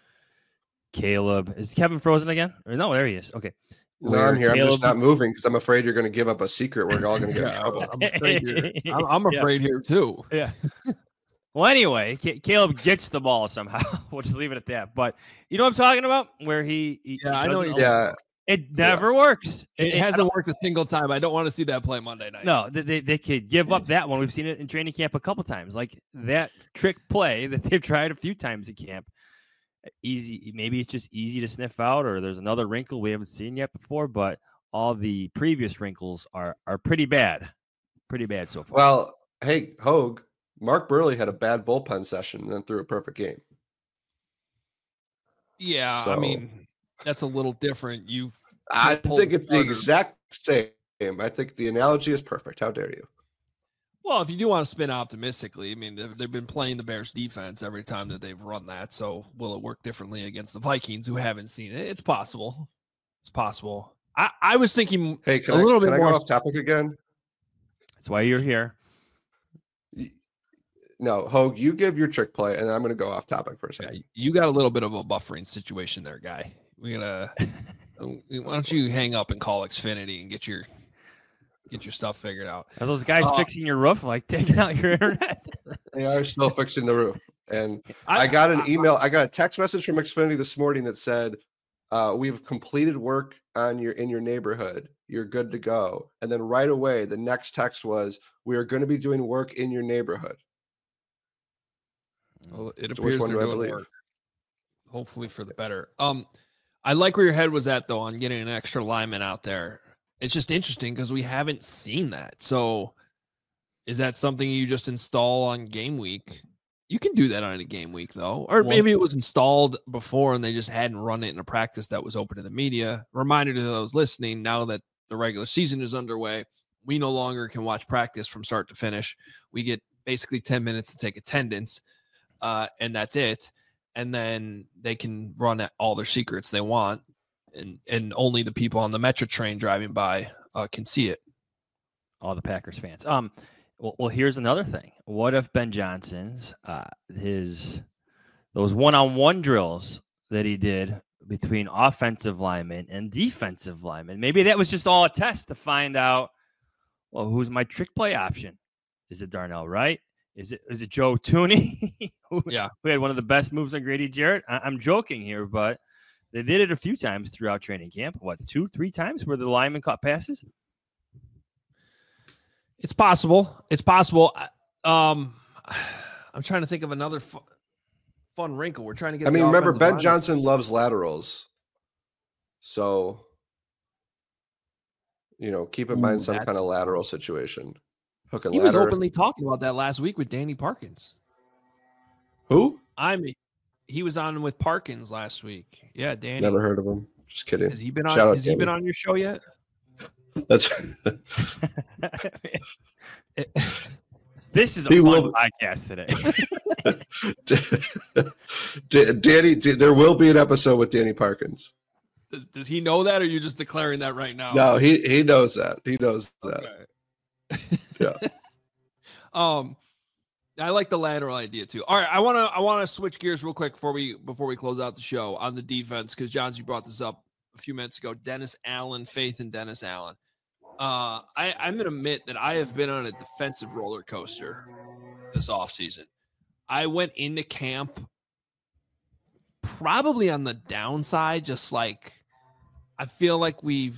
Speaker 2: is Kevin frozen again? Or no, there he is. Okay.
Speaker 3: No, I'm here. I'm just not moving because I'm afraid you're going to give up a secret. We're all going to get in trouble.
Speaker 1: I'm afraid here too.
Speaker 2: Yeah. Well, anyway, Caleb gets the ball somehow. We'll just leave it at that. But you know what I'm talking about? Where he
Speaker 1: I know.
Speaker 3: Yeah.
Speaker 2: It never works.
Speaker 1: It hasn't worked a single time. I don't want to see that play Monday night.
Speaker 2: No, they could give up that one. We've seen it in training camp a couple times. Like that trick play that they've tried a few times at camp. Easy. Maybe it's just easy to sniff out, or there's another wrinkle we haven't seen yet before. But all the previous wrinkles are pretty bad. Pretty bad so far.
Speaker 3: Well, hey, Hogue, Mark Burley had a bad bullpen session and then threw a perfect game.
Speaker 1: Yeah,
Speaker 3: So,
Speaker 1: I mean, that's a little different.
Speaker 3: I think it's the exact same. I think the analogy is perfect. How dare you?
Speaker 1: Well, if you do want to spin optimistically, I mean, they've been playing the Bears defense every time that they've run that. So will it work differently against the Vikings who haven't seen it? It's possible. It's possible. I was thinking
Speaker 3: Hey,
Speaker 1: can I
Speaker 3: go off topic again?
Speaker 2: That's why you're here.
Speaker 3: No, Hogue, you give your trick play, and I'm going to go off topic for a second.
Speaker 1: Yeah, you got a little bit of a buffering situation there, guy. Why don't you hang up and call Xfinity and get your stuff figured out?
Speaker 2: Are those guys fixing your roof, like taking out your internet?
Speaker 3: They are still fixing the roof. And I got an email. I got a text message from Xfinity this morning that said, we've completed work in your neighborhood. You're good to go. And then right away, the next text was, we are going to be doing work in your neighborhood.
Speaker 1: Well, it
Speaker 3: So which
Speaker 1: appears
Speaker 3: one
Speaker 1: they're
Speaker 3: do I
Speaker 1: doing
Speaker 3: believe?
Speaker 1: work. Hopefully for the better. I like where your head was at, though, on getting an extra lineman out there. It's just interesting because we haven't seen that. So is that something you just install on game week? You can do that on a game week, though. Or maybe it was installed before and they just hadn't run it in a practice that was open to the media. Reminder to those listening, now that the regular season is underway, we no longer can watch practice from start to finish. We get basically 10 minutes to take attendance, and that's it. And then they can run all their secrets they want, and only the people on the Metro train driving by can see it.
Speaker 2: All the Packers fans. Well, here's another thing. What if Ben Johnson's those one-on-one drills that he did between offensive linemen and defensive linemen, maybe that was just all a test to find out, well, who's my trick play option? Is it Darnell Wright? Is it Joe Tooney? who had one of the best moves on Grady Jarrett? I'm joking here, but they did it a few times throughout training camp. What, 2-3 times where the lineman caught passes?
Speaker 1: It's possible. It's possible. I'm trying to think of another fun wrinkle. We're trying to get.
Speaker 3: I mean, remember, Ben Johnson loves laterals, so keep in mind some kind of lateral situation. Hook and
Speaker 1: he
Speaker 3: ladder.
Speaker 1: was openly talking about that last week with Danny Parkins.
Speaker 3: Who?
Speaker 1: He was on with Parkins last week. Yeah, Danny.
Speaker 3: Never heard of him. Just kidding.
Speaker 1: Has he been on? Has he been on your show yet?
Speaker 3: That's.
Speaker 2: This is a fun podcast
Speaker 3: today. Danny, there will be an episode with Danny Parkins.
Speaker 1: Does he know that, or are you just declaring that right now?
Speaker 3: No, he knows that. He knows that.
Speaker 1: Okay.
Speaker 3: Yeah.
Speaker 1: I like the lateral idea too. All right, I want to switch gears real quick before we close out the show on the defense, because Johns, you brought this up a few minutes ago. Dennis Allen, faith in Dennis Allen. I'm gonna admit that I have been on a defensive roller coaster this offseason. I went into camp probably on the downside, just like I feel like we've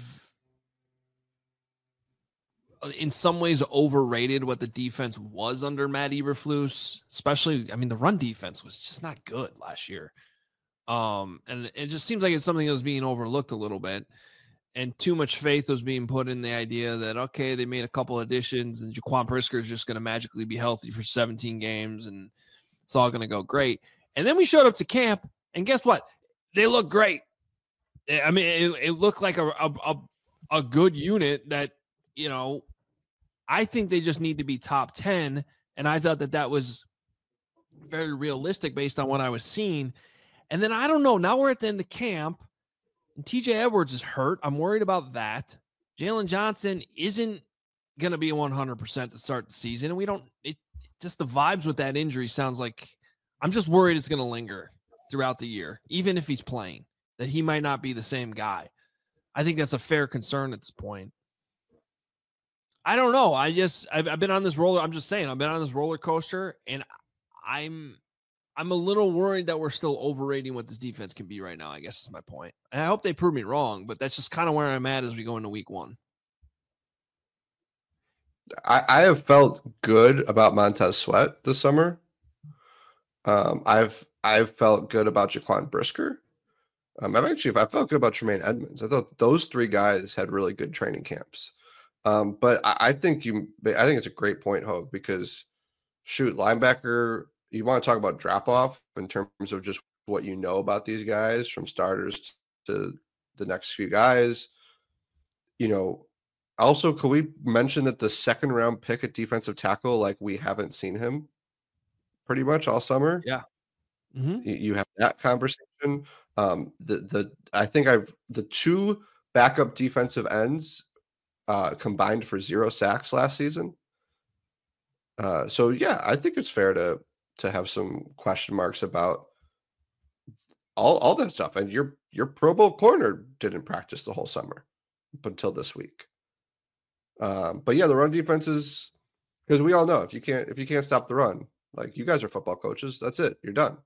Speaker 1: in some ways overrated what the defense was under Matt Eberflus, especially, I mean, the run defense was just not good last year. And it just seems like it's something that was being overlooked a little bit, and too much faith was being put in the idea that, okay, they made a couple additions and Jaquan Brisker is just going to magically be healthy for 17 games and it's all going to go great. And then we showed up to camp and guess what? They look great. I mean, it looked like a good unit that, I think they just need to be top 10. And I thought that was very realistic based on what I was seeing. And then I don't know. Now we're at the end of camp and TJ Edwards is hurt. I'm worried about that. Jalen Johnson isn't going to be 100% to start the season. And just the vibes with that injury sounds like I'm just worried it's going to linger throughout the year, even if he's playing, that he might not be the same guy. I think that's a fair concern at this point. I don't know. I've been on this roller. I'm just saying, I've been on this roller coaster, and I'm a little worried that we're still overrating what this defense can be right now, I guess is my point. And I hope they prove me wrong, but that's just kind of where I'm at as we go into week 1.
Speaker 3: I have felt good about Montez Sweat this summer. I've felt good about Jaquan Brisker. I felt good about Tremaine Edmonds. I thought those 3 guys had really good training camps. But I think it's a great point, Hogue, because shoot, linebacker, you want to talk about drop off in terms of just what you know about these guys from starters to the next few guys. Also, could we mention that the 2nd round pick at defensive tackle, like we haven't seen him pretty much all summer?
Speaker 1: Yeah. Mm-hmm.
Speaker 3: You have that conversation. I think the 2 backup defensive ends combined for 0 sacks last season. So yeah, I think it's fair to have some question marks about all that stuff. And your Pro Bowl corner didn't practice the whole summer up until this week. But yeah, the run defense is, because we all know if you can't stop the run, like you guys are football coaches, that's it. You're done.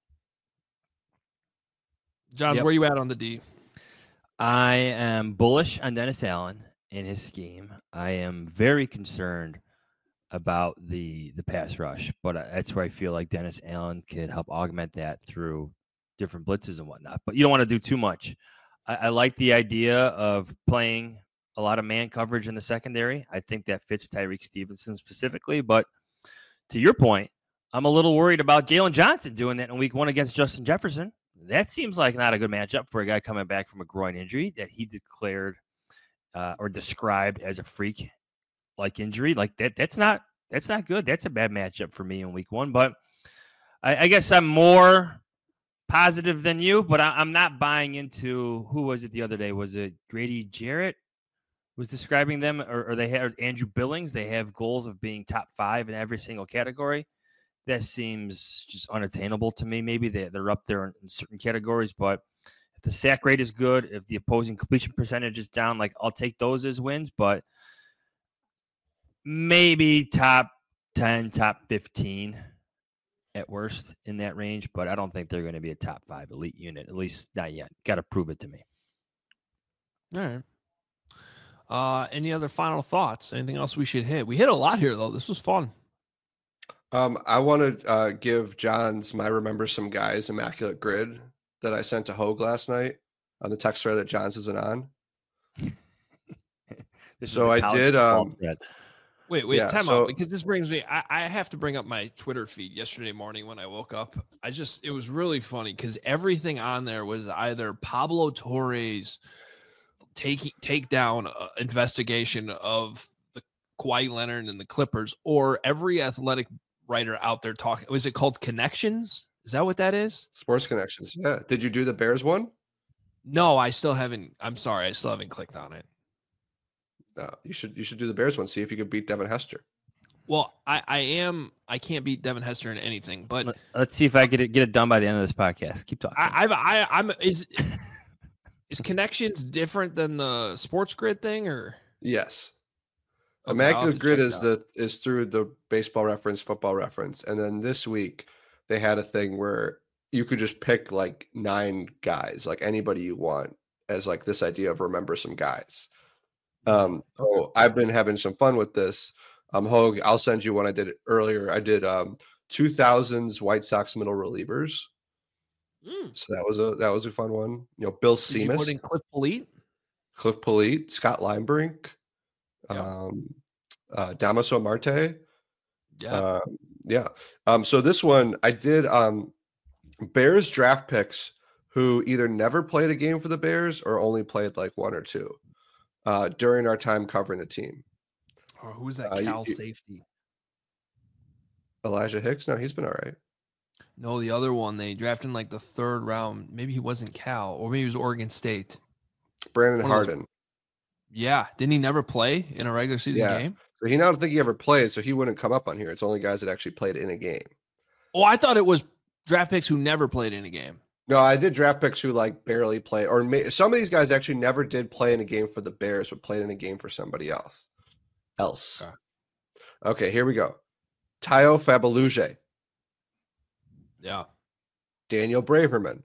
Speaker 1: Johns, where you at on the D?
Speaker 2: I am bullish on Dennis Allen in his scheme. I am very concerned about the pass rush, but that's where I feel like Dennis Allen could help augment that through different blitzes and whatnot. But you don't want to do too much. I like the idea of playing a lot of man coverage in the secondary. I think that fits Tyreek Stevenson specifically. But to your point, I'm a little worried about Jalen Johnson doing that in week 1 against Justin Jefferson. That seems like not a good matchup for a guy coming back from a groin injury that he declared or described as a freak-like injury. Like that's not good. That's a bad matchup for me in week 1. But I guess I'm more positive than you, but I'm not buying into, who was it the other day? Was it Grady Jarrett was describing them, or they had Andrew Billings? They have goals of being top 5 in every single category. That seems just unattainable to me. Maybe they're up there in certain categories, but if the sack rate is good, if the opposing completion percentage is down, like I'll take those as wins, but maybe top 10, top 15 at worst in that range, but I don't think they're going to be a top 5 elite unit, at least not yet. Got to prove it to me.
Speaker 1: All right. Any other final thoughts? Anything else we should hit? We hit a lot here, though. This was fun.
Speaker 3: I want to give Johns my Remember Some Guys immaculate grid that I sent to Hogue last night on the text thread that Johns isn't on. So I did.
Speaker 1: Wait, yeah, time out, because this brings me. I have to bring up my Twitter feed yesterday morning when I woke up. It was really funny because everything on there was either Pablo Torre's takedown investigation of the Kawhi Leonard and the Clippers, or every athletic writer out there talking. Was it called Connections? Is that what that is?
Speaker 3: Sports Connections. Yeah. Did you do the Bears one?
Speaker 1: No, I still haven't. I'm sorry, I still haven't clicked on it.
Speaker 3: You should do the Bears one. See if you could beat Devin Hester.
Speaker 1: Well, I can't beat Devin Hester in anything, but
Speaker 2: let's see if I get it done by the end of this podcast. Keep talking.
Speaker 1: Is Connections different than the Sports Grid thing, or?
Speaker 3: Yes.
Speaker 1: Okay,
Speaker 3: Immaculate Grid is through the Baseball Reference, Football Reference, and then this week they had a thing where you could just pick like 9 guys, like anybody you want, as like this idea of Remember Some Guys. So I've been having some fun with this. Hogue, I'll send you one I did earlier. I did 2000s White Sox middle relievers. So that was a fun one. Bill Seamus. Did you put in Cliff Polite, Scott Linebrink, Damaso Marte. So this one I did Bears draft picks who either never played a game for the Bears or only played like 1 or 2 during our time covering the team.
Speaker 1: Oh, who's that Cal safety?
Speaker 3: Elijah Hicks? No, he's been all right.
Speaker 1: No, the other one they drafted in like the 3rd round. Maybe he wasn't Cal, or maybe he was Oregon State.
Speaker 3: Brandon Harden.
Speaker 1: Yeah. Didn't he never play in a regular season game?
Speaker 3: So I don't think he ever played, so he wouldn't come up on here. It's only guys that actually played in a game.
Speaker 1: Oh, I thought it was draft picks who never played in a game.
Speaker 3: No, I did draft picks who like barely play, or some of these guys actually never did play in a game for the Bears, but played in a game for somebody else. Okay, here we go. Tayo Fabaluje.
Speaker 1: Yeah.
Speaker 3: Daniel Braverman,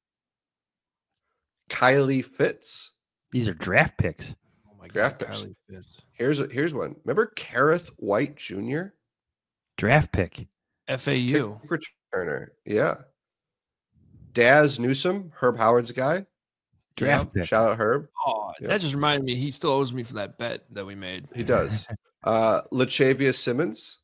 Speaker 3: Kylie Fitz.
Speaker 2: These are draft picks.
Speaker 1: Oh my
Speaker 3: Draft
Speaker 1: God.
Speaker 3: picks.
Speaker 1: Kylie Fitz.
Speaker 3: Here's one. Remember Kareth White Jr.?
Speaker 2: Draft pick.
Speaker 1: FAU.
Speaker 3: Kick returner. Yeah. Daz Newsome, Herb Howard's guy.
Speaker 2: Draft pick.
Speaker 3: Shout out Herb.
Speaker 1: Oh,
Speaker 3: Yep.
Speaker 1: that just reminded me. He still owes me for that bet that we made.
Speaker 3: He does. Lachavious Simmons.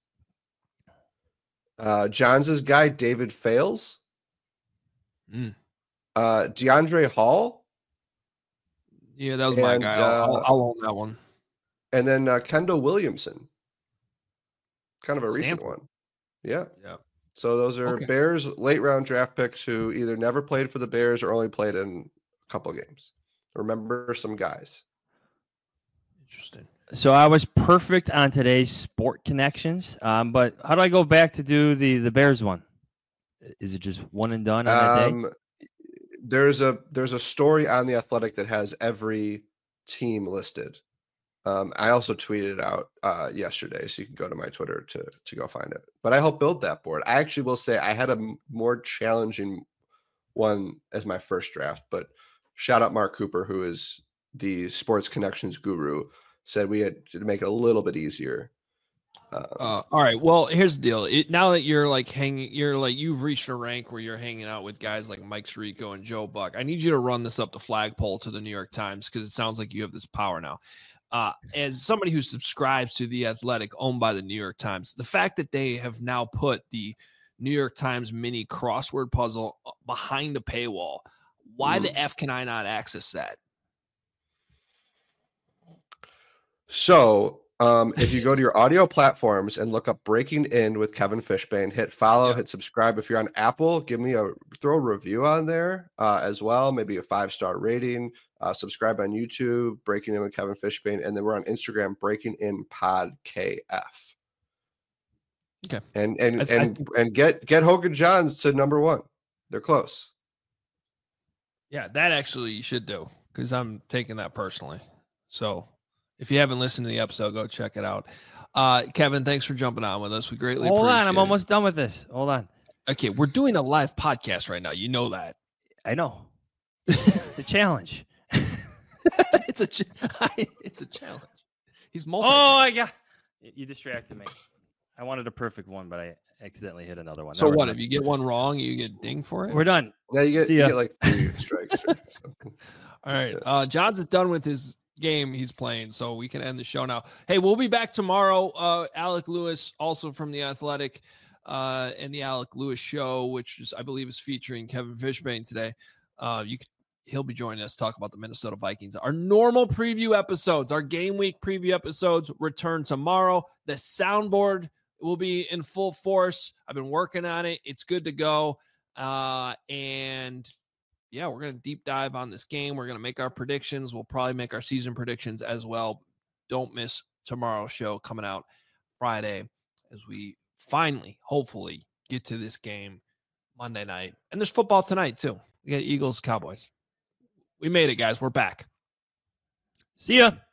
Speaker 3: Johns' guy, David Fales.
Speaker 1: Mm.
Speaker 3: DeAndre Hall.
Speaker 1: Yeah, that was my
Speaker 3: And,
Speaker 1: guy. I'll own that one.
Speaker 3: And then Kendall Williamson. Kind of a recent
Speaker 1: Stanford.
Speaker 3: one. Yeah.
Speaker 1: Yeah.
Speaker 3: So those are
Speaker 1: Okay.
Speaker 3: Bears late round draft picks who either never played for the Bears or only played in a couple games. Remember some guys.
Speaker 1: Interesting.
Speaker 2: So I was perfect on today's sport connections. But how do I go back to do the Bears one? Is it just one and done on that day?
Speaker 3: There's a story on The Athletic that has every team listed. I also tweeted it out yesterday, so you can go to my Twitter to go find it. But I helped build that board. I actually will say I had a more challenging one as my first draft, but shout out Mark Cooper, who is the sports connections guru, said we had to make it a little bit easier.
Speaker 1: All right. Well, here's the deal. Now that you're like you've reached a rank where you're hanging out with guys like Mike Sirico and Joe Buck. I need you to run this up the flagpole to the New York Times because it sounds like you have this power now. As somebody who subscribes to The Athletic, owned by the New York Times, the fact that they have now put the New York Times mini crossword puzzle behind a paywall, why the F can I not access that?
Speaker 3: So if you go to your audio platforms and look up Breaking In with Kevin Fishbane, hit follow, hit subscribe. If you're on Apple, throw a review on there as well, maybe a 5-star rating. Subscribe on YouTube, Breaking In with Kevin Fishbane, and then we're on Instagram, Breaking In Pod KF.
Speaker 1: Okay,
Speaker 3: and get Hogan Johns to number 1. They're close.
Speaker 1: Yeah, that actually you should do because I'm taking that personally. So if you haven't listened to the episode, go check it out. Kevin, thanks for jumping on with us. We greatly appreciate it.
Speaker 2: Hold on, I'm almost done with this. Hold on.
Speaker 1: Okay, we're doing a live podcast right now. You know that.
Speaker 2: I know. It's a challenge.
Speaker 1: It's a challenge. He's multitasking.
Speaker 2: Oh, I got you distracted me. I wanted a perfect one, but I accidentally hit another one.
Speaker 1: So what? If you get one wrong, you get dinged for it?
Speaker 2: We're done.
Speaker 3: Yeah, you get like 3 strikes or something.
Speaker 1: All right. Johns is done with his game he's playing, so we can end the show now. Hey, we'll be back tomorrow. Alec Lewis, also from The Athletic, and the Alec Lewis Show, which I believe is featuring Kevin Fishbane today. He'll be joining us to talk about the Minnesota Vikings. Our normal preview episodes, our game week preview episodes, return tomorrow. The soundboard will be in full force. I've been working on it. It's good to go. And yeah, we're going to deep dive on this game. We're going to make our predictions. We'll probably make our season predictions as well. Don't miss tomorrow's show coming out Friday as we finally, hopefully, get to this game Monday night. And there's football tonight, too. We got Eagles, Cowboys. We made it, guys. We're back.
Speaker 2: See ya.